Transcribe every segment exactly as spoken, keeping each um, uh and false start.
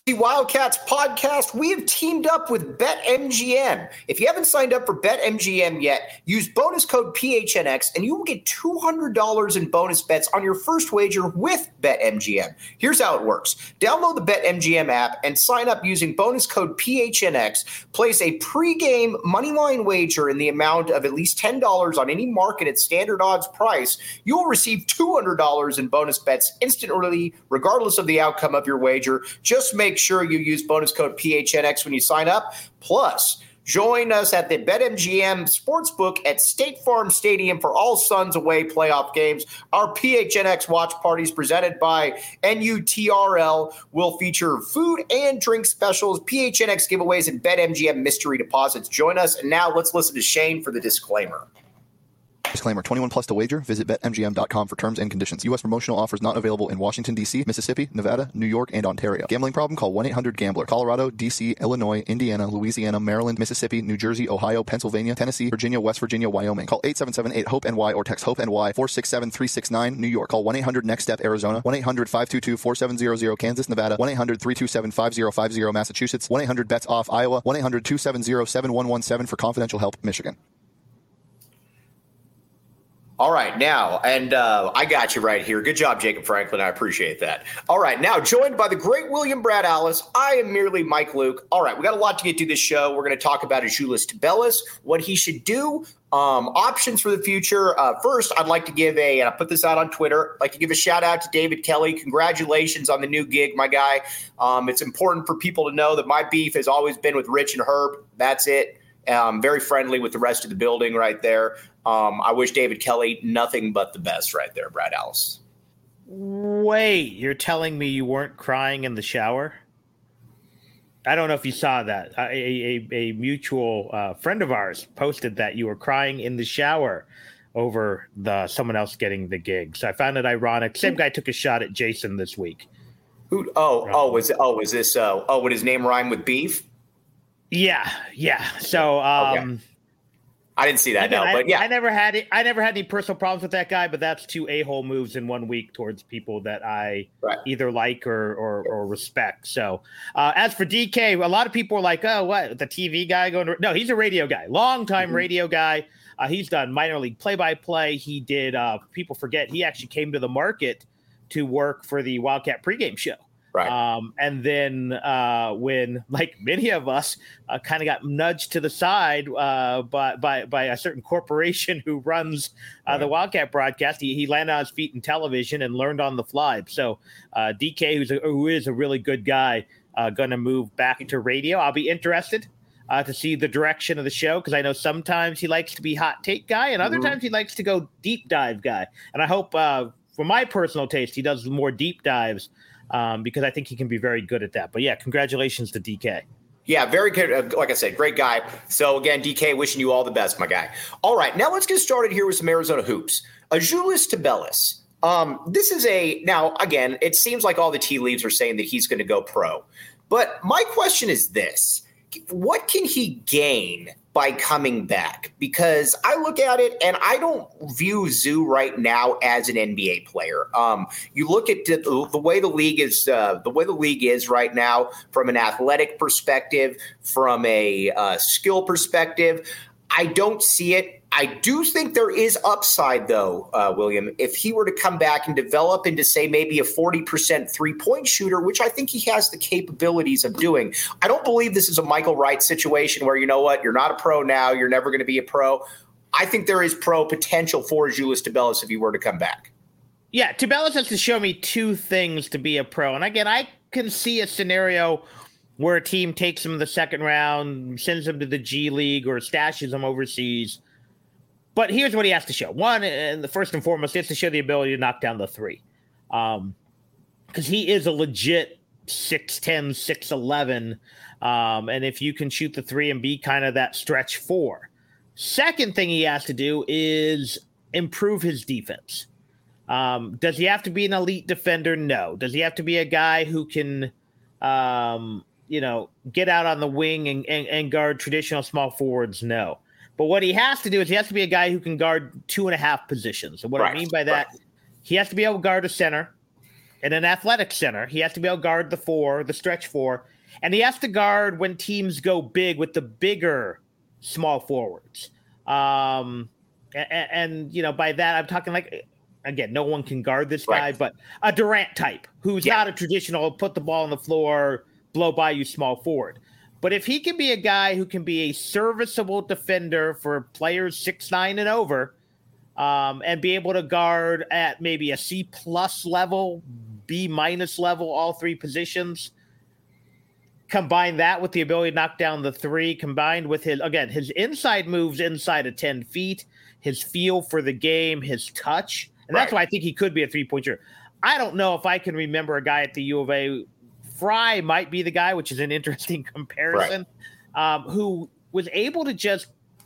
The Wildcats podcast, we have teamed up with BetMGM. If you haven't signed up for BetMGM yet, use bonus code P H N X and you will get two hundred dollars in bonus bets on your first wager with BetMGM. Here's how it works. Download the BetMGM app and sign up using bonus code P H N X. Place a pregame moneyline wager in the amount of at least ten dollars on any market at standard odds price. You will receive two hundred dollars in bonus bets instantly, regardless of the outcome of your wager. Just make sure you use bonus code P H N X when you sign up. Plus, join us at the BetMGM Sportsbook at State Farm Stadium for all Suns away playoff games. Our P H N X watch parties presented by N U T R L will feature food and drink specials, P H N X giveaways, and BetMGM mystery deposits. Join us. And now let's listen to Shane for the disclaimer. Disclaimer, twenty-one plus to wager. Visit Bet M G M dot com for terms and conditions. U S promotional offers not available in Washington, D C, Mississippi, Nevada, New York, and Ontario. Gambling problem? Call one eight hundred gambler. Colorado, D C, Illinois, Indiana, Louisiana, Maryland, Mississippi, New Jersey, Ohio, Pennsylvania, Tennessee, Virginia, West Virginia, Wyoming. Call eight seven seven eight hope N Y or text HOPE-NY four six seven three six nine. New York. Call one eight hundred next step Arizona. one eight hundred five two two four seven zero zero. Kansas, Nevada. one eight hundred three two seven five zero five zero. Massachusetts. one eight hundred bets off Iowa. one eight hundred two seven zero seven one one seven for confidential help. Michigan. All right, now, and uh, I got you right here. Good job, Jacob Franklin. I appreciate that. All right, now, joined by the great William Brad Allis, I am merely Mike Luke. All right, we got a lot to get to this show. We're going to talk about Azuolas Tubelis, what he should do, um, options for the future. Uh, first, I'd like to give a, and I put this out on Twitter, I'd like to give a shout out to David Kelly. Congratulations on the new gig, my guy. Um, it's important for people to know that my beef has always been with Rich and Herb. That's it. Um, very friendly with the rest of the building right there. Um, I wish David Kelly nothing but the best right there, Brad Allis. Wait, you're telling me you weren't crying in the shower? I don't know if you saw that. A, a, a mutual uh, friend of ours posted that you were crying in the shower over the someone else getting the gig. So I found it ironic. Same guy took a shot at Jason this week. Who? Oh, oh, was oh, was this? Uh, oh, would his name rhyme with beef? Yeah, yeah. So, um, okay. I didn't see that. Again, no, I, but yeah, I never had it. I never had any personal problems with that guy, but that's two a-hole moves in one week towards people that I right. either like or or, or respect. So, uh, as for D K, a lot of people are like, "Oh, what the T V guy going to?" No, he's a radio guy, long time mm-hmm. radio guy. Uh, he's done minor league play-by-play. He did. Uh, people forget he actually came to the market to work for the Wildcat pregame show. Right. Um, and then uh, when, like many of us, uh, kind of got nudged to the side uh, by, by by a certain corporation who runs uh, right. the Wildcat broadcast, he, he landed on his feet in television and learned on the fly. So uh, D K, who's a, who is a really good guy, uh, going to move back to radio. I'll be interested uh, to see the direction of the show because I know sometimes he likes to be hot take guy and other mm-hmm. times he likes to go deep dive guy. And I hope, uh, for my personal taste, he does more deep dives. Um, because I think he can be very good at that. But, yeah, congratulations to D K. Yeah, very good. Uh, like I said, great guy. So, again, D K, wishing you all the best, my guy. All right, now let's get started here with some Arizona hoops. Azuolas Tubelis. Um, this is a – now, again, it seems like all the tea leaves are saying that he's going to go pro. But my question is this. What can he gain by coming back? Because I look at it and I don't view Zoo right now as an N B A player. Um, you look at the, the way the league is, uh, the way the league is right now, from an athletic perspective, from a uh, skill perspective. I don't see it. I do think there is upside, though, uh, William, if he were to come back and develop into, say, maybe a forty percent three-point shooter, which I think he has the capabilities of doing. I don't believe this is a Michael Wright situation where, you know what, you're not a pro now, you're never going to be a pro. I think there is pro potential for Azuolas Tubelis if he were to come back. Yeah, Tubelis has to show me two things to be a pro. And, again, I can see a scenario where a team takes him in the second round, sends him to the G League, or stashes him overseas. But here's what he has to show. One, and the first and foremost, he has to show the ability to knock down the three. Um, because he is a legit six ten, six eleven. Um, and if you can shoot the three and be kind of that stretch four. Second thing he has to do is improve his defense. Um, does he have to be an elite defender? No. Does he have to be a guy who can, um, you know, get out on the wing and, and, and guard traditional small forwards? No. But what he has to do is he has to be a guy who can guard two and a half positions. And what right, I mean by that, right. he has to be able to guard a center. in an athletic center. He has to be able to guard the four, the stretch four, and he has to guard when teams go big with the bigger small forwards. Um, and, and you know, by that I'm talking like, again, no one can guard this guy, right. but a Durant type who's yeah. not a traditional put the ball on the floor, blow by you small forward. But if he can be a guy who can be a serviceable defender for players six nine and over, um, and be able to guard at maybe a C plus level, B minus level, all three positions, combine that with the ability to knock down the three, combined with his, again, his inside moves inside of ten feet, his feel for the game, his touch. And right. that's why I think he could be a three-point shooter. I don't know if I can remember a guy at the U of A. Fry might be the guy, which is an interesting comparison, right. um, who was able to just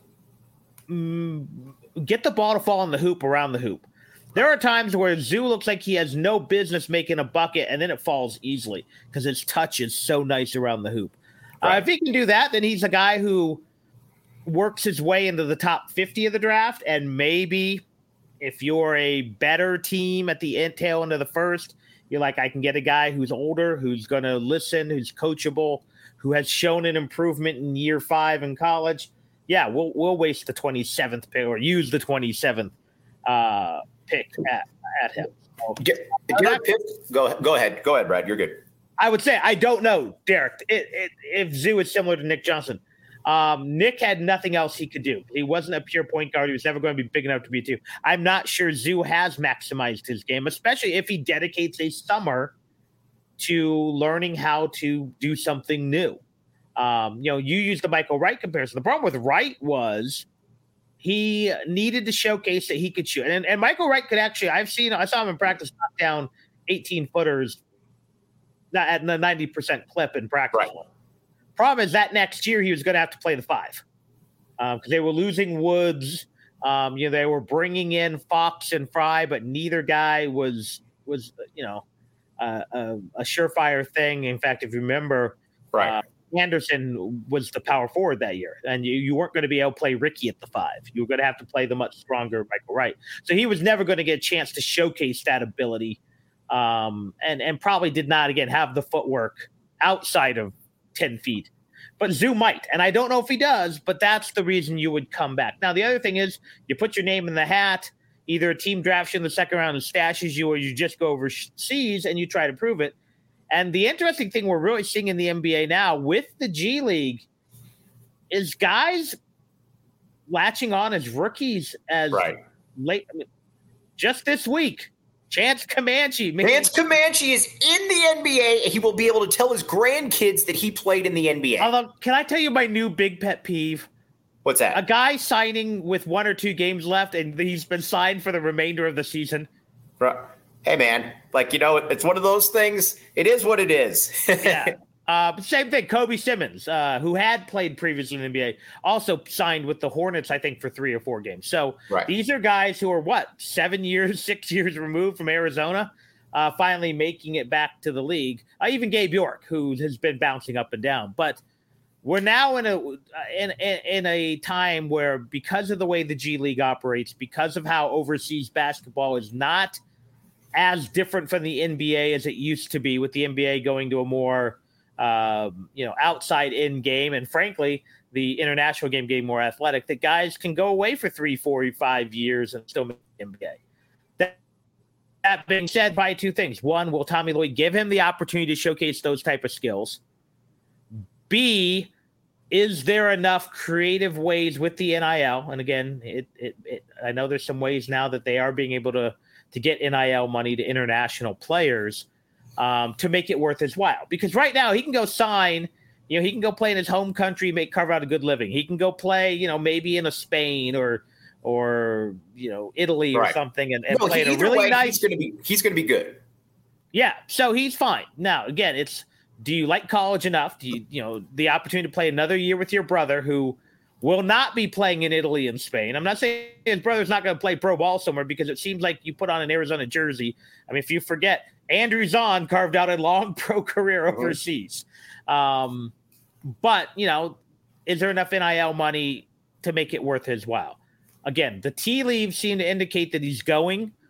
mm, get the ball to fall in the hoop around the hoop. There are times where Zoo looks like he has no business making a bucket, and then it falls easily because his touch is so nice around the hoop. Right. Uh, if he can do that, then he's a guy who works his way into the top fifty of the draft, and maybe if you're a better team at the end, tail end of the first, you're like, I can get a guy who's older, who's going to listen, who's coachable, who has shown an improvement in year five in college. Yeah, we'll we'll waste the twenty-seventh pick or use the twenty-seventh uh, pick at, at him. So, get, get pick, go, go ahead. Go ahead, Brad. You're good. I would say I don't know, Derek, it, it, if Zoo is similar to Nick Johnson. Um, Nick had nothing else he could do. He wasn't a pure point guard. He was never going to be big enough to be a two. I'm not sure Zoo has maximized his game, especially if he dedicates a summer to learning how to do something new. Um, you know, you used the Michael Wright comparison. The problem with Wright was he needed to showcase that he could shoot. And, and Michael Wright could actually, I've seen, I saw him in practice knock down eighteen footers at the ninety percent clip in practice. Right. Problem is that next year he was going to have to play the five because um, they were losing Woods. Um, you know, they were bringing in Fox and Fry, but neither guy was was you know uh, a, a surefire thing. In fact, if you remember, right. uh, Anderson was the power forward that year, and you, you weren't going to be able to play Ricky at the five. You were going to have to play the much stronger Michael Wright. So he was never going to get a chance to showcase that ability, um, and and probably did not again have the footwork outside of ten feet, but Zoo might. And I don't know if he does, but that's the reason you would come back. Now, the other thing is you put your name in the hat, either a team drafts you in the second round and stashes you, or you just go overseas and you try to prove it. And the interesting thing we're really seeing in the N B A now with the G League is guys latching on as rookies as right. late. I mean, just this week, Chance Comanche. Chance Comanche is in the N B A, and he will be able to tell his grandkids that he played in the N B A. Although, can I tell you my new big pet peeve? What's that? A guy signing with one or two games left, and he's been signed for the remainder of the season. Right. Hey, man. Like, you know, it's one of those things. It is what it is. Yeah. Uh, same thing. Kobe Simmons, uh, who had played previously in the N B A, also signed with the Hornets, I think, for three or four games. So right. these are guys who are, what, seven years, six years removed from Arizona, uh, finally making it back to the league. Uh, even Gabe York, who has been bouncing up and down. But we're now in a in, in a time where, because of the way the G League operates, because of how overseas basketball is not as different from the N B A as it used to be, with the N B A going to a more Um, you know, outside in game, and frankly, the international game getting more athletic, that guys can go away for three, four, five years and still make the N B A. That, that being said, by two things. One, will Tommy Lloyd give him the opportunity to showcase those type of skills? B, is there enough creative ways with the N I L? And again, it, it, it I know there's some ways now that they are being able to, to get N I L money to international players, Um, to make it worth his while. Because right now he can go sign, you know, he can go play in his home country, make carve out a good living. He can go play, you know, maybe in a Spain or or you know Italy right. or something, and, and no, play he, in a really way, nice. He's going to be he's going to be good. Yeah, so he's fine. Now again, it's do you like college enough? Do you you know the opportunity to play another year with your brother who will not be playing in Italy and Spain? I'm not saying his brother's not going to play pro ball somewhere, because it seems like you put on an Arizona jersey. I mean, if you forget, Andrew Zahn carved out a long pro career overseas. Um, but, you know, is there enough N I L money to make it worth his while? Again, the tea leaves seem to indicate that he's going.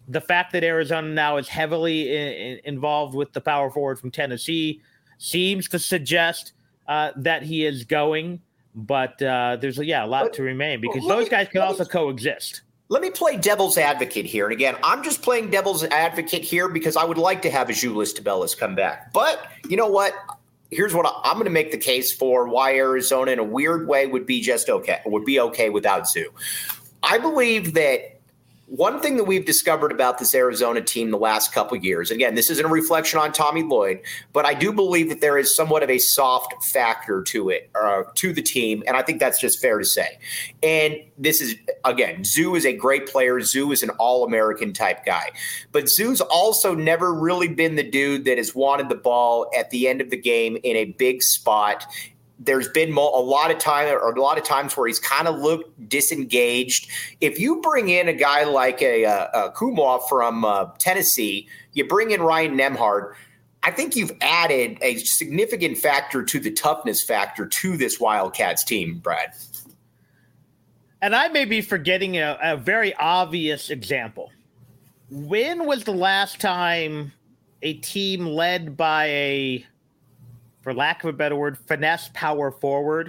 the fact that Arizona now is heavily in, in, involved with the power forward from Tennessee seems to suggest uh, that he is going. But uh, there's, yeah, a lot but, to remain because those me, guys can also me, coexist. Let me play devil's advocate here. And again, I'm just playing devil's advocate here because I would like to have Azuolas Tubelis come back. But you know what? Here's what I, I'm going to make the case for why Arizona in a weird way would be just okay, would be okay without Zoo. I believe that one thing that we've discovered about this Arizona team the last couple of years, again, this isn't a reflection on Tommy Lloyd, but I do believe that there is somewhat of a soft factor to it, uh, to the team, and I think that's just fair to say. And this is, again, Zoo is a great player. Zoo is an All-American type guy. But Zoo's also never really been the dude that has wanted the ball at the end of the game in a big spot. There's been a lot of time or a lot of times where he's kind of looked disengaged. If you bring in a guy like a, a, a Kumar from uh, Tennessee, you bring in Ryan Nembhard, I think you've added a significant factor to the toughness factor to this Wildcats team, Brad. And I may be forgetting a, a very obvious example. When was the last time a team led by a, for lack of a better word, finesse power forward,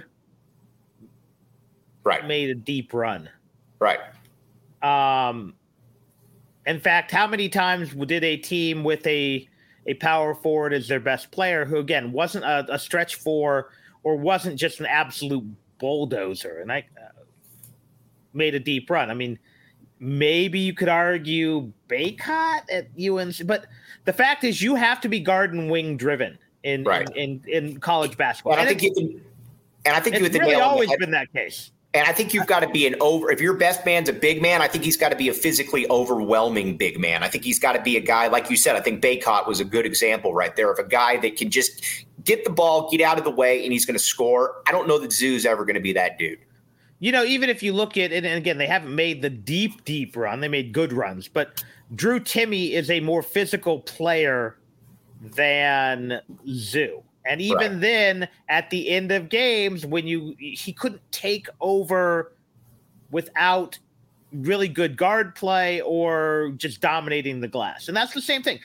right, made a deep run? Right. Um, in fact, how many times did a team with a a power forward as their best player, who again wasn't a, a stretch four or wasn't just an absolute bulldozer, and I uh, made a deep run? I mean, maybe you could argue Baycott at U N C, but the fact is, you have to be guard and wing driven. In, right. in, in in college basketball, and I think you can, and I think it's you have really nail always been that case. And I think you've got to be an over. If your best man's a big man, I think he's got to be a physically overwhelming big man. I think he's got to be a guy like you said. I think Baycott was a good example right there of a guy that can just get the ball, get out of the way, and he's going to score. I don't know that Zoo's ever going to be that dude. You know, even if you look at it, and again, they haven't made the deep, deep run. They made good runs, but Drew Timme is a more physical player than Zoo. And even right. then, at the end of games, when you he couldn't take over without really good guard play or just dominating the glass. And that's the same thing.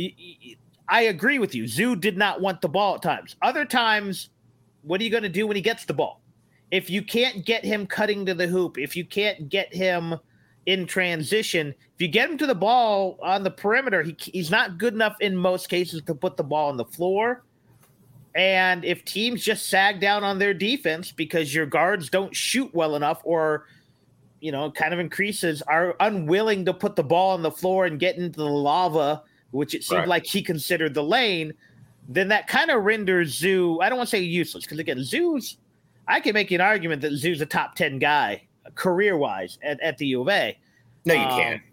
I agree with you. Zoo did not want the ball at times. Other times, what are you going to do when he gets the ball? If you can't get him cutting to the hoop, if you can't get him in transition, if you get him to the ball on the perimeter, he, he's not good enough in most cases to put the ball on the floor. And if teams just sag down on their defense because your guards don't shoot well enough, or, you know, kind of increases, are unwilling to put the ball on the floor and get into the lava, which it seemed right. like he considered the lane, then that kind of renders Zoo, I don't want to say useless, because again, Zoo's, I can make an argument that Zoo's a top ten guy career-wise at, at the U of A. No, you um, can't.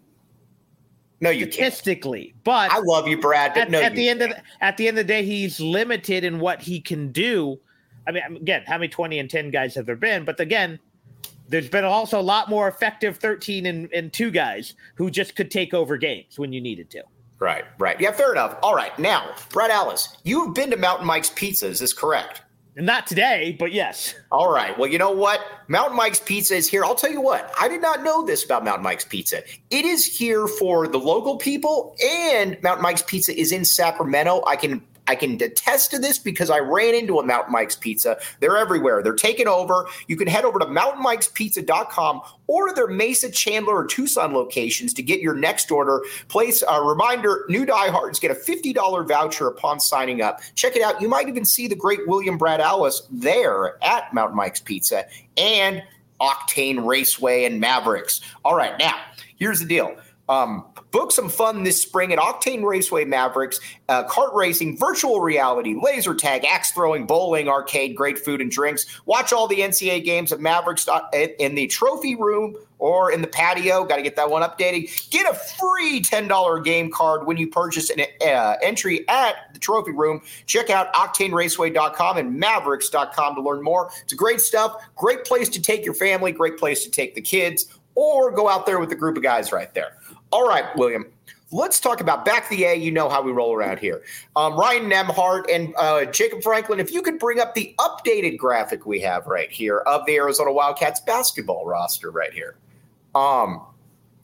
No, you statistically, can't. But I love you, Brad. But at, no, at the you end can't. of the, at the end of the day, he's limited in what he can do. I mean, again, how many twenty and ten guys have there been? But again, there's been also a lot more effective thirteen and, and two guys who just could take over games when you needed to. Right, right. Yeah, fair enough. All right, now, Brad Allis, you have been to Mountain Mike's Pizza. Is this correct? Not today, but yes. All right. Well, you know what? Mountain Mike's Pizza is here. I'll tell you what. I did not know this about Mountain Mike's Pizza. It is here for the local people, and Mountain Mike's Pizza is in Sacramento. I can I can attest to this because I ran into a Mountain Mike's Pizza. They're everywhere. They're taking over. You can head over to mountain mikes pizza dot com or their Mesa, Chandler, or Tucson locations to get your next order. Place a reminder, new diehards get a fifty dollars voucher upon signing up. Check it out. You might even see the great William Brad Allis there at Mountain Mike's Pizza and Octane Raceway and Mavericks. All right, now, here's the deal. Um, book some fun this spring at Octane Raceway Mavericks, uh, kart racing, virtual reality, laser tag, axe throwing, bowling, arcade, great food and drinks. Watch all the N C A A games at Mavericks in the trophy room or in the patio. Got to get that one updated. Get a free ten dollars game card when you purchase an uh, entry at the trophy room. Check out octane raceway dot com and mavericks dot com to learn more. It's great stuff. Great place to take your family. Great place to take the kids, or go out there with a group of guys right there. All right, William, let's talk about back the A. You know how we roll around here. Um, Ryan Nembhard and uh, Jacob Franklin, if you could bring up the updated graphic we have right here of the Arizona Wildcats basketball roster right here. Um,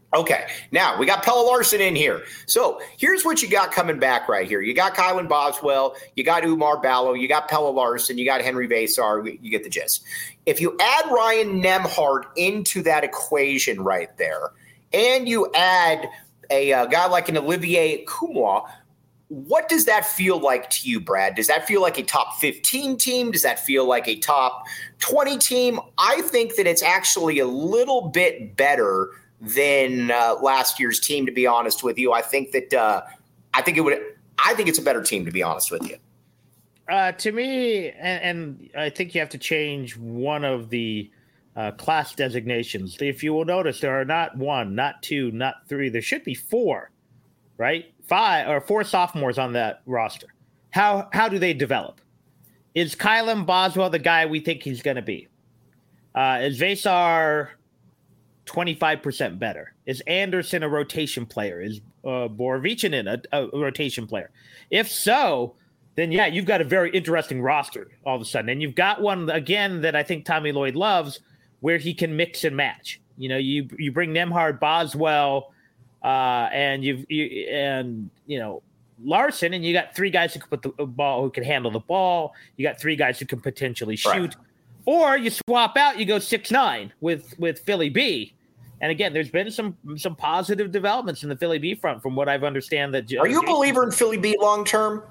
Okay, now we got Pelle Larsson in here. So here's what you got coming back right here. You got Kylan Boswell, you got Umar Ballo, you got Pelle Larsson, you got Henry Vesar. You get the gist. If you add Ryan Nembhard into that equation right there, and you add a, a guy like an Olivier Koumois, what does that feel like to you, Brad? Does that feel like a top fifteen team? Does that feel like a top twenty team? I think that it's actually a little bit better than uh, last year's team, to be honest with you. I think that uh, I think it would. I think it's a better team, to be honest with you. Uh, to me, and, and I think you have to change one of the uh, class designations. If you will notice, there are not one, not two, not three. There should be four, right? Five or four sophomores on that roster. How how do they develop? Is Kylan Boswell the guy we think he's going to be? Uh, is Vesar twenty-five percent better? Is Anderson a rotation player? Is uh, Borovichinen a, a rotation player? If so, then yeah, you've got a very interesting roster all of a sudden. And you've got one, again, that I think Tommy Lloyd loves, where he can mix and match. You know, you you bring Nembhard, Boswell, uh, and you've you, and you know Larsson, and you got three guys who can put the ball, who can handle the ball. You got three guys who can potentially shoot. Right. Or you swap out, you go six nine with with Philly B. And again, there's been some some positive developments in the Philly B front, from what I've understand. That are you a believer in Philly B long term?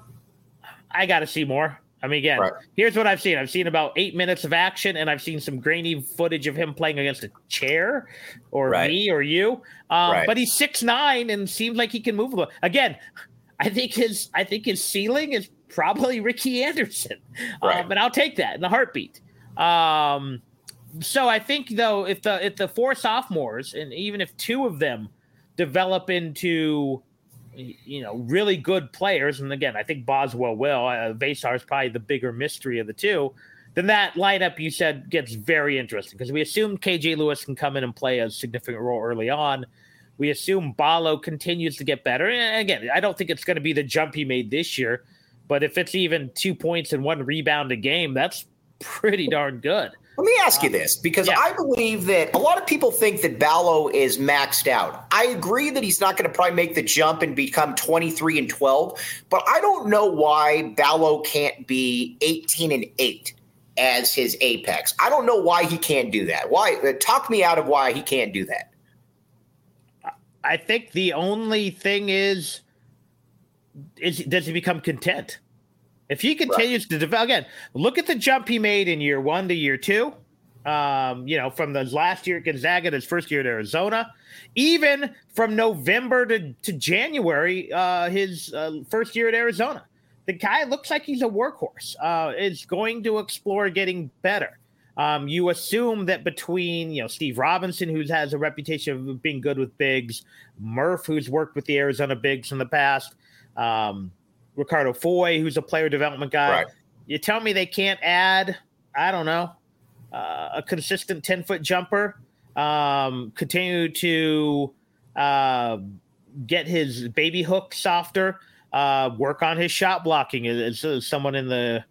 I got to see more. I mean, again, right. Here's what I've seen. I've seen about eight minutes of action, and I've seen some grainy footage of him playing against a chair, or right. me, or you. Um, right. But he's six nine and seems like he can move a little. Again, I think his I think his ceiling is probably Ricky Anderson, right. um, and I'll take that in a heartbeat. Um, So I think, though, if the if the four sophomores, and even if two of them develop into, you know, really good players, and again, I think Boswell will, uh, Vesar is probably the bigger mystery of the two, then that lineup you said gets very interesting, because we assume K J Lewis can come in and play a significant role early on. We assume Ballo continues to get better. And again, I don't think it's going to be the jump he made this year, but if it's even two points and one rebound a game, that's pretty darn good. Let me ask you this, because yeah. I believe that a lot of people think that Ballo is maxed out. I agree that he's not going to probably make the jump and become twenty-three and twelve, but I don't know why Ballo can't be eighteen and eight as his apex. I don't know why he can't do that. Why? Uh, talk me out of why he can't do that. I think the only thing is, is does he become content? If he continues right. to develop, again, look at the jump he made in year one to year two. Um, you know, from the last year at Gonzaga to his first year at Arizona, even from November to, to January, uh, his uh, first year at Arizona. The guy looks like he's a workhorse. Uh, is going to explore getting better. Um, you assume that between, you know, Steve Robinson, who has a reputation of being good with bigs, Murph, who's worked with the Arizona bigs in the past, um, Ricardo Foy, who's a player development guy. Right. You tell me they can't add, I don't know, uh, a consistent ten-foot jumper, um, continue to uh, get his baby hook softer, uh, work on his shot blocking, as, as someone in the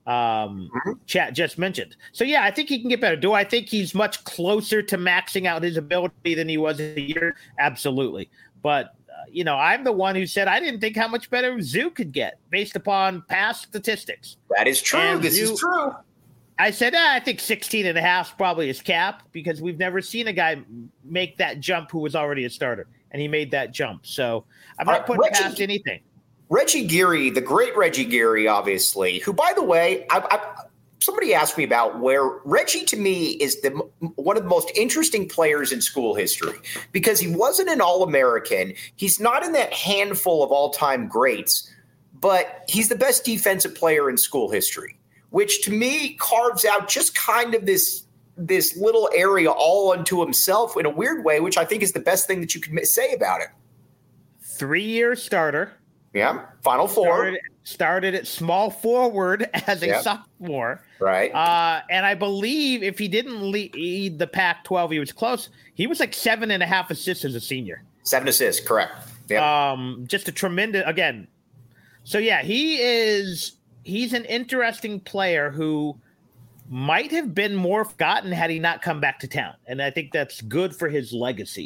um, mm-hmm. chat just mentioned. So, yeah, I think he can get better. Do I think he's much closer to maxing out his ability than he was a year? Absolutely. But you know, I'm the one who said I didn't think how much better Zoo could get based upon past statistics. That is true. And this Zoo, is true. I said, ah, I think sixteen and a half is probably his cap, because we've never seen a guy make that jump who was already a starter, and he made that jump. So I'm not uh, putting Reggie, past anything. Reggie Geary, the great Reggie Geary, obviously, who, by the way, I, I, somebody asked me about where Reggie, to me, is the one of the most interesting players in school history, because he wasn't an All-American. He's not in that handful of all-time greats, but he's the best defensive player in school history, which to me carves out just kind of this this little area all unto himself in a weird way, which I think is the best thing that you can say about it. Three-year starter. Yeah, Final Four. Started, started at small forward as a yep. sophomore. Right. Uh, and I believe if he didn't lead the Pac twelve, he was close. He was like seven and a half assists as a senior. Seven assists, correct. Yep. Um, just a tremendous, again. So, yeah, he is, he's an interesting player who might have been more forgotten had he not come back to town. And I think that's good for his legacy.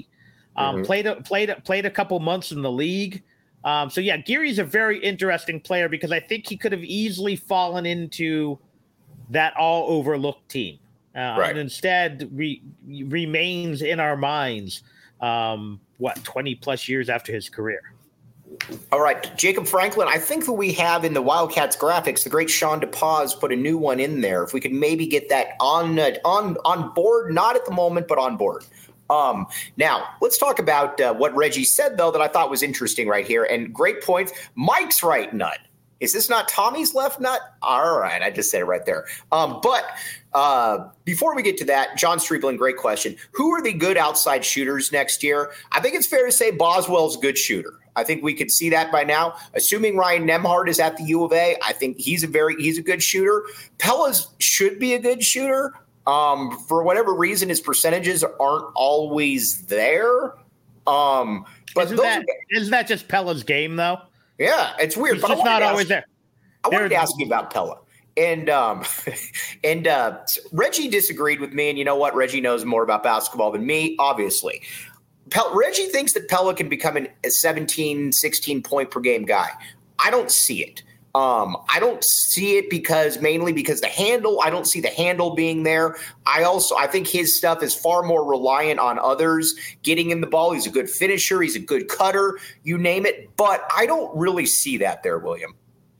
Um, Mm-hmm. Played a, played a, played a couple months in the league. Um, so yeah, Geary's a very interesting player because I think he could have easily fallen into that all overlooked team, uh, Right. and instead re- remains in our minds. Um, what twenty plus years after his career. All right, Jacob Franklin, I think that we have in the Wildcats graphics, the great Sean DePaz put a new one in there. If we could maybe get that on uh, on on board, not at the moment, but on board. Um, now, let's talk about uh, what Reggie said, though, that I thought was interesting right here. And great point. Mike's right nut. Is this not Tommy's left nut? All right, I just said it right there. Um, but uh, before we get to that, John Striebling, great question. Who are the good outside shooters next year? I think it's fair to say Boswell's a good shooter. I think we could see that by now. Assuming Ryan Nembhard is at the U of A, I think he's a very he's a good shooter. Pellas should be a good shooter. Um, for whatever reason, his percentages aren't always there. Um, but isn't those that, are, isn't that just Pella's game, though? Yeah, it's weird. He's but just not ask, always there. I wanted There- to ask you about Pella. And um, and uh, Reggie disagreed with me. And you know what? Reggie knows more about basketball than me, obviously. Pel- Reggie thinks that Pella can become an, a seventeen, sixteen point per game guy. I don't see it. Um, I don't see it because mainly because the handle, I don't see the handle being there. I also, I think his stuff is far more reliant on others getting him the ball. He's a good finisher. He's a good cutter, you name it. But I don't really see that there, William.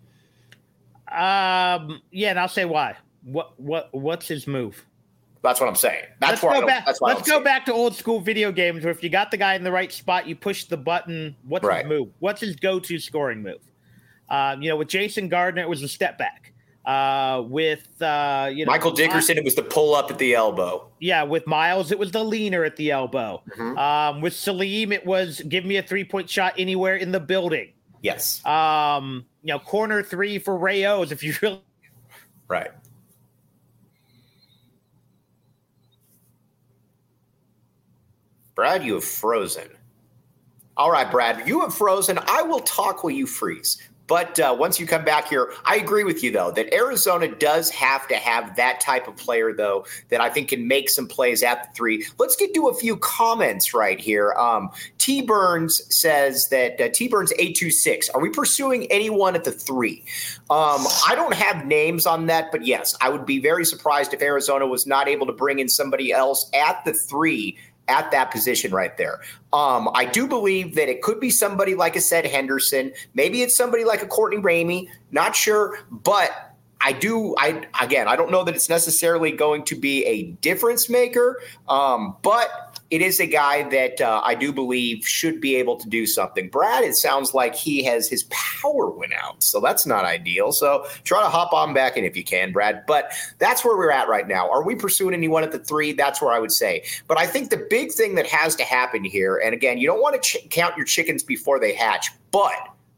Um, yeah, and I'll say why. What what what's his move? That's what I'm saying. That's let's why. go I don't, back. that's why I Let's don't go see back to old school video games where if you got the guy in the right spot, you push the button. What's Right. his move? What's his go-to scoring move? Um, you know, with Jason Gardner, it was a step back. Uh, with uh, you it. know, Michael Dickerson, it was the pull up at the elbow. yeah, with Miles, it was the leaner at the elbow. Mhm. Um, with Salim, it was give me a three-point shot anywhere in the building. Yes. Um, you know, corner three for Ray O's if you really. Right. Brad, you have frozen. All right, Brad, you have frozen. I will talk while you freeze. But uh, once you come back here, I agree with you, though, that Arizona does have to have that type of player, though, that I think can make some plays at the three. Let's get to a few comments right here. Um, T. Burns says that uh, T. Burns eight two six. Are we pursuing anyone at the three? Um, I don't have names on that, but yes, I would be very surprised if Arizona was not able to bring in somebody else at the three at that position right there. Um, I do believe that it could be somebody like I said, Henderson. Maybe it's somebody like a Courtney Ramey. Not sure, but I do. I again, I don't know that it's necessarily going to be a difference maker, um, but it is a guy that uh, I do believe should be able to do something. Brad, it sounds like he has his power went out, so that's not ideal. So try to hop on back in if you can, Brad. But that's where we're at right now. Are we pursuing anyone at the three? That's where I would say. But I think the big thing that has to happen here, and again, you don't want to ch- count your chickens before they hatch, but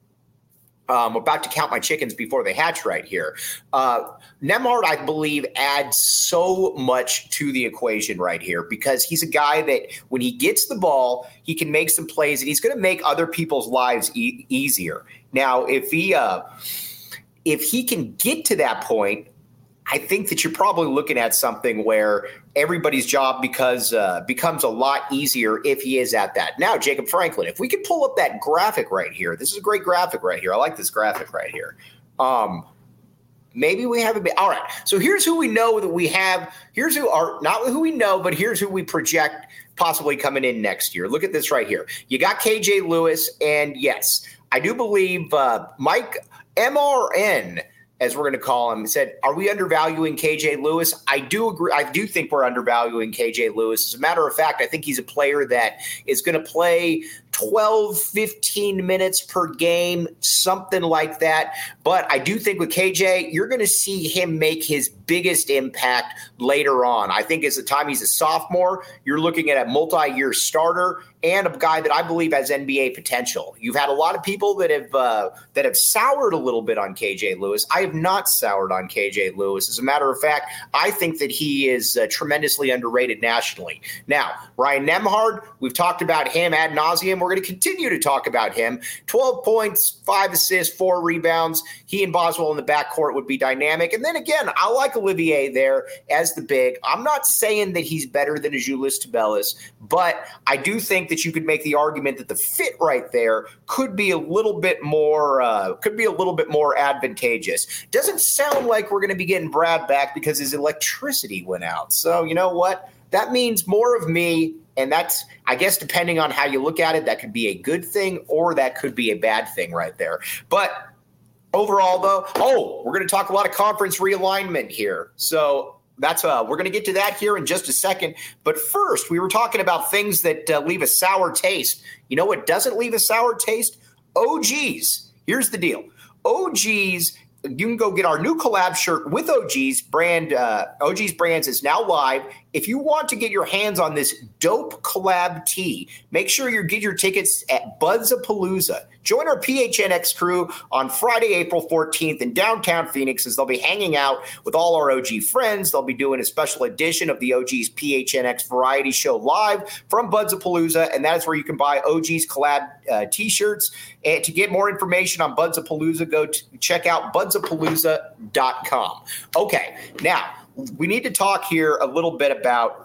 I'm about to count my chickens before they hatch right here. Uh, Nembhard, I believe, adds so much to the equation right here because he's a guy that when he gets the ball, he can make some plays and he's going to make other people's lives e- easier. Now, if he uh, if he can get to that point, I think that you're probably looking at something where everybody's job because uh, becomes a lot easier if he is at that. Now, Jacob Franklin, if we could pull up that graphic right here, this is a great graphic right here. I like this graphic right here. Um, maybe we have a bit. All right. So here's who we know that we have. Here's who are not who we know, but here's who we project possibly coming in next year. Look at this right here. You got K J Lewis. And yes, I do believe uh, Mike M R N, as we're going to call him, said, are we undervaluing K J Lewis? I do agree. I do think we're undervaluing K J Lewis. As a matter of fact, I think he's a player that is going to play twelve, fifteen minutes per game, something like that. But I do think with K J, you're going to see him make his biggest impact later on. I think as the time he's a sophomore, you're looking at a multi-year starter and a guy that I believe has N B A potential. You've had a lot of people that have uh, that have soured a little bit on K J Lewis. I have not soured on K J Lewis. As a matter of fact, I think that he is uh, tremendously underrated nationally. Now, Ryan Nembhard, we've talked about him ad nauseum. We're going to continue to talk about him. twelve points, five assists, four rebounds. He and Boswell in the backcourt would be dynamic. And then again, I like a Olivier there as the big. I'm not saying that he's better than Azuolas Tubelis, but I do think that you could make the argument that the fit right there could be a little bit more, uh, could be a little bit more advantageous. Doesn't sound like we're going to be getting Brad back because his electricity went out. So you know what? That means more of me. And that's, I guess, depending on how you look at it, that could be a good thing or that could be a bad thing right there. But overall, though, oh, we're going to talk a lot of conference realignment here. So that's uh, we're going to get to that here in just a second. But first, we were talking about things that uh, leave a sour taste. You know what doesn't leave a sour taste? O Gs. Here's the deal. O Gs. You can go get our new collab shirt with O G's brand. Uh, O G's Brands is now live. If you want to get your hands on this dope collab tee, make sure you get your tickets at Budzapalooza. Join our P H N X crew on Friday, April fourteenth in downtown Phoenix as they'll be hanging out with all our O G friends. They'll be doing a special edition of the O G's P H N X Variety Show live from Budzapalooza, and that is where you can buy O G's collab uh, t-shirts. And to get more information on Budzapalooza, go to check out budzapalooza dot com. Okay, now we need to talk here a little bit about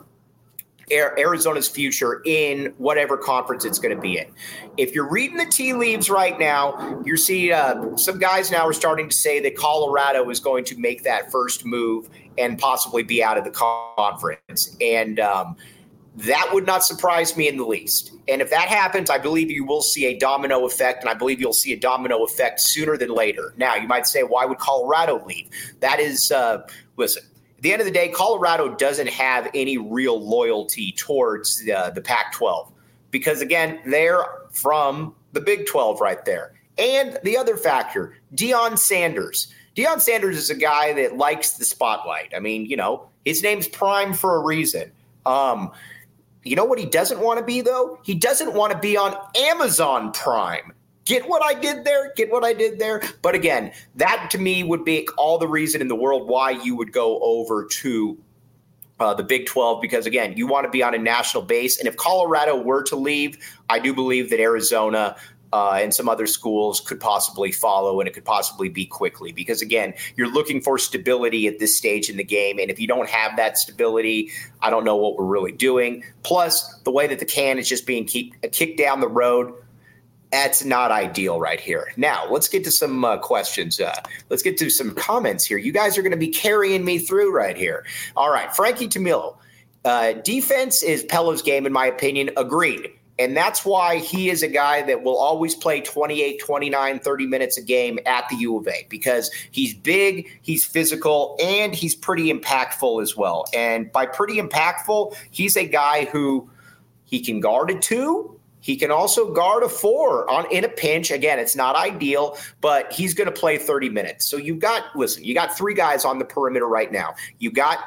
Arizona's future in whatever conference it's going to be in. If you're reading the tea leaves right now, you're seeing uh, some guys now are starting to say that Colorado is going to make that first move and possibly be out of the conference. And um, that would not surprise me in the least. And if that happens, I believe you will see a domino effect, and I believe you'll see a domino effect sooner than later. Now, you might say, why would Colorado leave? That is, uh, listen, at the end of the day, Colorado doesn't have any real loyalty towards uh, the Pac twelve because, again, they're from the Big twelve right there. And the other factor, Deion Sanders. Deion Sanders is a guy that likes the spotlight. I mean, you know, his name's Prime for a reason. Um, you know what he doesn't want to be, though? He doesn't want to be on Amazon Prime. Get what I did there? Get what I did there? But again, that to me would be all the reason in the world why you would go over to uh, the Big twelve because, again, you want to be on a national base. And if Colorado were to leave, I do believe that Arizona uh, and some other schools could possibly follow, and it could possibly be quickly because, again, you're looking for stability at this stage in the game. And if you don't have that stability, I don't know what we're really doing. Plus, the way that the can is just being keep, kicked down the road, that's not ideal right here. Now, let's get to some uh, questions. Uh, let's get to some comments here. You guys are going to be carrying me through right here. All right, Frankie Tamilo. Uh, defense is Pelo's game, in my opinion. Agreed. And that's why he is a guy that will always play twenty-eight, twenty-nine, thirty minutes a game at the U of A because he's big, he's physical, and he's pretty impactful as well. And by pretty impactful, he's a guy who he can guard a two. He can also guard a four on in a pinch. Again, it's not ideal, but he's going to play thirty minutes. So you've got, listen, you got three guys on the perimeter right now. You got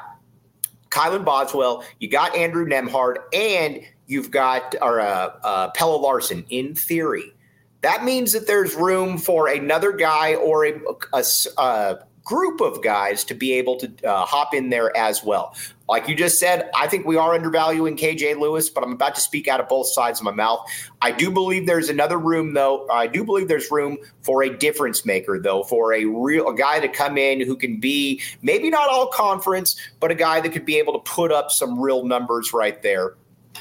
Kylan Boswell, you got Andrew Nembhard, and you've got or, uh, uh, Pelle Larsson in theory. That means that there's room for another guy or a, a, a group of guys to be able to uh, hop in there as well. Like you just said, I think we are undervaluing K J Lewis, but I'm about to speak out of both sides of my mouth. I do believe there's another room, though. I do believe there's room for a difference maker, though, for a real a guy to come in who can be maybe not all conference, but a guy that could be able to put up some real numbers right there.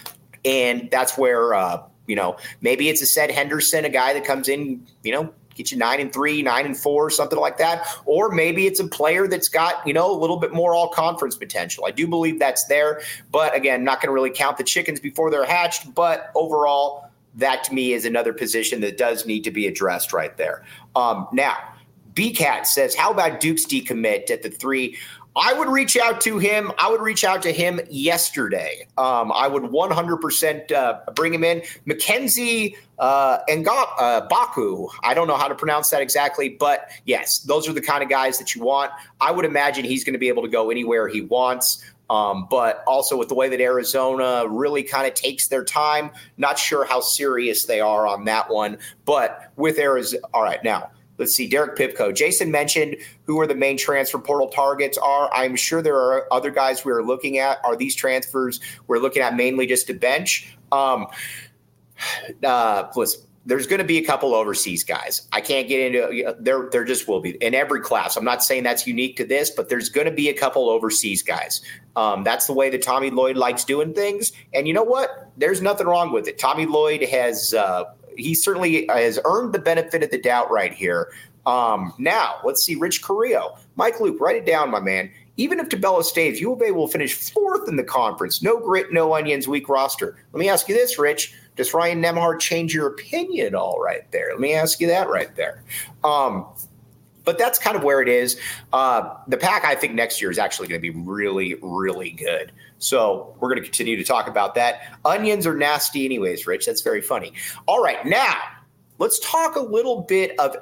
And that's where, uh, you know, maybe it's a Seth Henderson, a guy that comes in, you know, get you nine and three, nine and four, something like that. Or maybe it's a player that's got, you know, a little bit more all conference potential. I do believe that's there. But again, not going to really count the chickens before they're hatched. But overall, that to me is another position that does need to be addressed right there. Um, now, B-Cat says, how about Duke's decommit at the three? I would reach out to him. I would reach out to him yesterday. Um, I would one hundred percent uh, bring him in. Mackenzie uh, Nga- uh, Baku. I don't know how to pronounce that exactly, but yes, those are the kind of guys that you want. I would imagine he's going to be able to go anywhere he wants. Um, but also with the way that Arizona really kind of takes their time, not sure how serious they are on that one. But with Arizona, all right, now. Let's see, Derek Pipko. Jason mentioned who are the main transfer portal targets are. I'm sure there are other guys we are looking at. Are these transfers we're looking at mainly just to bench? Um, uh, listen, there's going to be a couple overseas guys. I can't get into there. There just will be in every class. I'm not saying that's unique to this, but there's going to be a couple overseas guys. Um, that's the way that Tommy Lloyd likes doing things. And you know what? There's nothing wrong with it. Tommy Lloyd has uh, he certainly has earned the benefit of the doubt right here. Um, now let's see. Rich Carrillo, Mike Luke, write it down, my man. Even if Tabella stays, U of A will finish fourth in the conference. No grit, no onions, weak roster. Let me ask you this, Rich. Does Ryan Nembhard change your opinion at all right there? Let me ask you that right there. Um, but that's kind of where it is. Uh, the Pack, I think, next year is actually going to be really, really good. So we're going to continue to talk about that. Onions are nasty anyways, Rich. That's very funny. All right, now let's talk a little bit of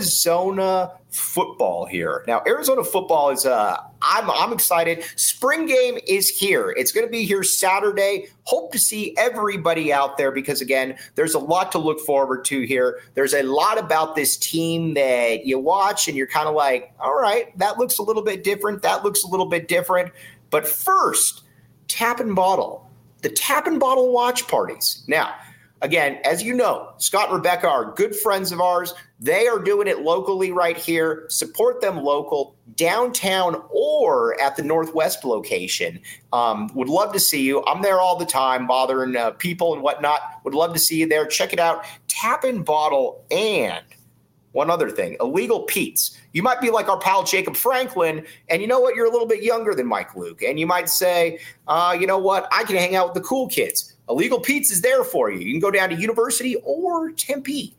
Arizona football here. Now, Arizona football is uh, I'm I'm excited. Spring game is here. It's going to be here Saturday. Hope to see everybody out there because, again, there's a lot to look forward to here. There's a lot about this team that you watch and you're kind of like, all right, that looks a little bit different. That looks a little bit different. But first, Tap and Bottle. The Tap and Bottle watch parties. Now, again, as you know, Scott and Rebecca are good friends of ours. They are doing it locally right here. Support them local, downtown or at the Northwest location. Um, would love to see you. I'm there all the time, bothering uh, people and whatnot. Would love to see you there. Check it out. Tap and Bottle and one other thing, Illegal Pete's. You might be like our pal Jacob Franklin, and you know what? You're a little bit younger than Mike Luke. And you might say, uh, you know what? I can hang out with the cool kids. Illegal Pete's is there for you. You can go down to University or Tempe.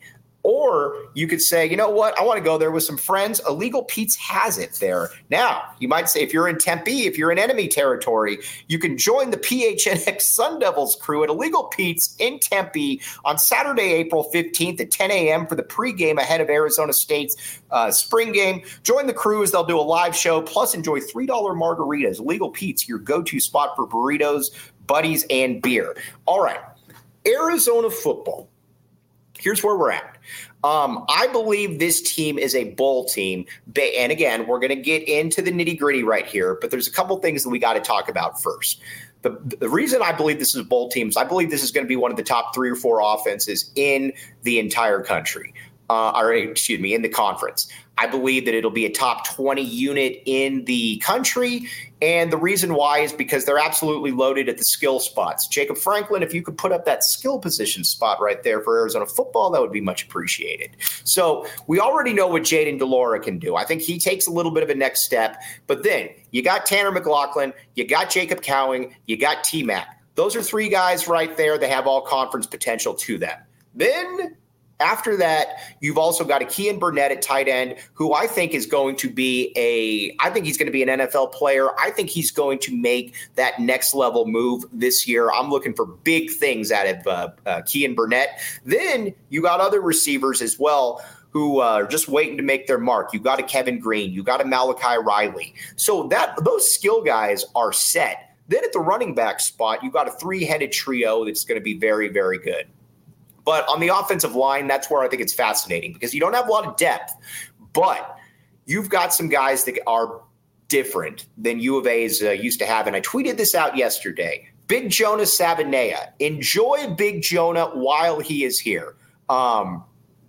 Or you could say, you know what? I want to go there with some friends. Illegal Pete's has it there. Now, you might say if you're in Tempe, if you're in enemy territory, you can join the P H N X Sun Devils crew at Illegal Pete's in Tempe on Saturday, April fifteenth at ten a.m. for the pregame ahead of Arizona State's uh, spring game. Join the crew as they'll do a live show, plus enjoy three dollar margaritas. Illegal Pete's, your go-to spot for burritos, buddies, and beer. All right, Arizona football. Here's where we're at. Um, I believe this team is a bowl team. And again, we're going to get into the nitty gritty right here, but there's a couple things that we got to talk about first. The, the reason I believe this is a bowl team is I believe this is going to be one of the top three or four offenses in the entire country, uh, or excuse me, in the conference. I believe that it'll be a top twenty unit in the country. And the reason why is because they're absolutely loaded at the skill spots. Jacob Franklin, if you could put up that skill position spot right there for Arizona football, that would be much appreciated. So we already know what Jaden DeLaura can do. I think he takes a little bit of a next step. But then you got Tanner McLaughlin, you got Jacob Cowing, you got T-Mac. Those are three guys right there that have all conference potential to them. Then after that, you've also got a Kean Burnett at tight end, who I think is going to be a – I think he's going to be an N F L player. I think he's going to make that next level move this year. I'm looking for big things out of uh, uh, Kean Burnett. Then you got other receivers as well who uh, are just waiting to make their mark. You got a Kevin Green. You got a Malachi Riley. So that those skill guys are set. Then at the running back spot, you got a three-headed trio that's going to be very, very good. But on the offensive line, that's where I think it's fascinating because you don't have a lot of depth, but you've got some guys that are different than U of A's uh, used to have. And I tweeted this out yesterday. Big Jonah Sabanea. Enjoy Big Jonah while he is here. Um,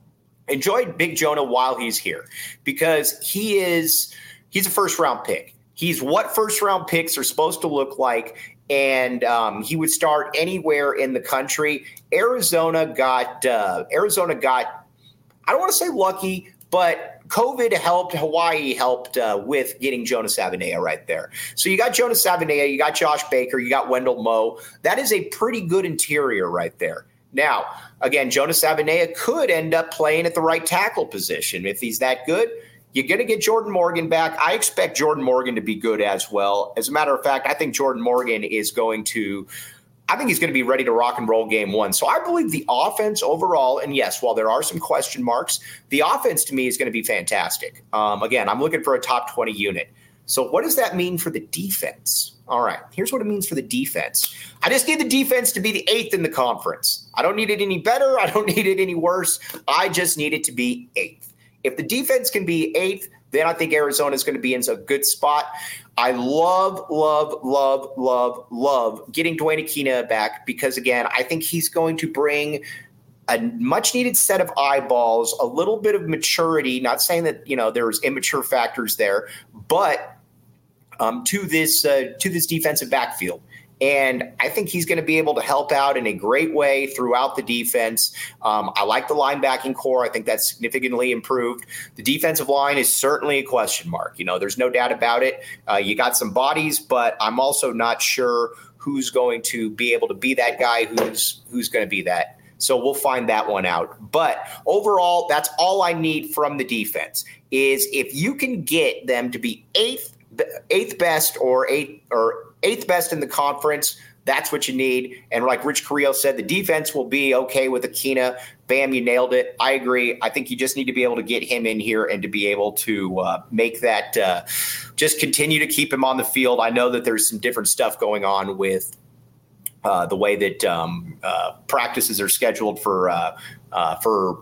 enjoy Big Jonah while he's here because he is he's a first-round pick. He's what first-round picks are supposed to look like. And um, he would start anywhere in the country. Arizona got uh, Arizona got. I don't want to say lucky, but COVID helped. Hawaii helped uh, with getting Jonah Sabanea right there. So you got Jonah Sabanea, you got Josh Baker, you got Wendell Moe. That is a pretty good interior right there. Now, again, Jonah Sabanea could end up playing at the right tackle position if he's that good. You're going to get Jordan Morgan back. I expect Jordan Morgan to be good as well. As a matter of fact, I think Jordan Morgan is going to – I think he's going to be ready to rock and roll game one. So I believe the offense overall – and yes, while there are some question marks, the offense to me is going to be fantastic. Um, again, I'm looking for a top twenty unit. So what does that mean for the defense? All right, here's what it means for the defense. I just need the defense to be the eighth in the conference. I don't need it any better. I don't need it any worse. I just need it to be eighth. If the defense can be eighth, then I think Arizona is going to be in a good spot. I love, love, love, love, love getting Dwayne Aquina back because, again, I think he's going to bring a much needed set of eyeballs, a little bit of maturity, not saying that, you know, there's immature factors there, but um, to this uh, to this defensive backfield. And I think he's going to be able to help out in a great way throughout the defense. Um, I like the linebacking core. I think that's significantly improved. The defensive line is certainly a question mark. You know, there's no doubt about it. Uh, you got some bodies, but I'm also not sure who's going to be able to be that guy, who's who's going to be that. So we'll find that one out. But overall, that's all I need from the defense is if you can get them to be eighth, eighth best or eighth or eighth best in the conference, that's what you need. And like Rich Carrillo said, the defense will be okay with Akina. Bam, you nailed it. I agree. I think you just need to be able to get him in here and to be able to uh, make that uh, just continue to keep him on the field. I know that there's some different stuff going on with uh, the way that um, uh, practices are scheduled for uh, uh, for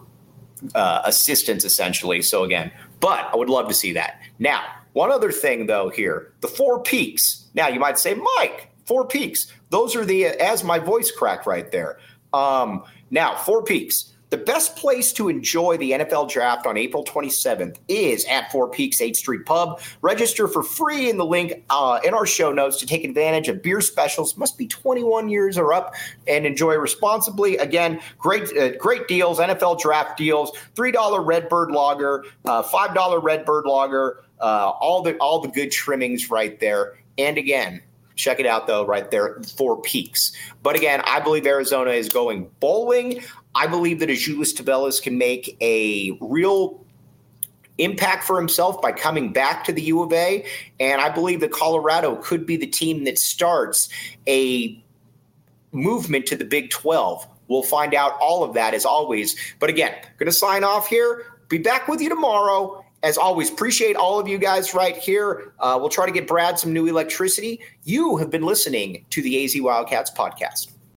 uh, assistants, essentially. So again, but I would love to see that. Now, one other thing, though, here, the four peaks. Now, you might say, Mike, four peaks. Those are the, as my voice cracked right there. Um, now, four peaks. The best place to enjoy the N F L draft on April twenty-seventh is at Four Peaks eighth Street Pub. Register for free in the link uh, in our show notes to take advantage of beer specials. Must be twenty-one years or up and enjoy responsibly. Again, great uh, great deals, N F L draft deals, three dollar Redbird Lager, uh, five dollar Redbird Lager, uh, all the all the good trimmings right there. And again, check it out, though, right there, Four Peaks. But again, I believe Arizona is going bowling. I believe that Azuolas Tubelis can make a real impact for himself by coming back to the U of A. And I believe that Colorado could be the team that starts a movement to the Big twelve. We'll find out all of that as always. But again, going to sign off here. Be back with you tomorrow. As always, appreciate all of you guys right here. Uh, we'll try to get Brad some new electricity. You have been listening to the A Z Wildcats podcast.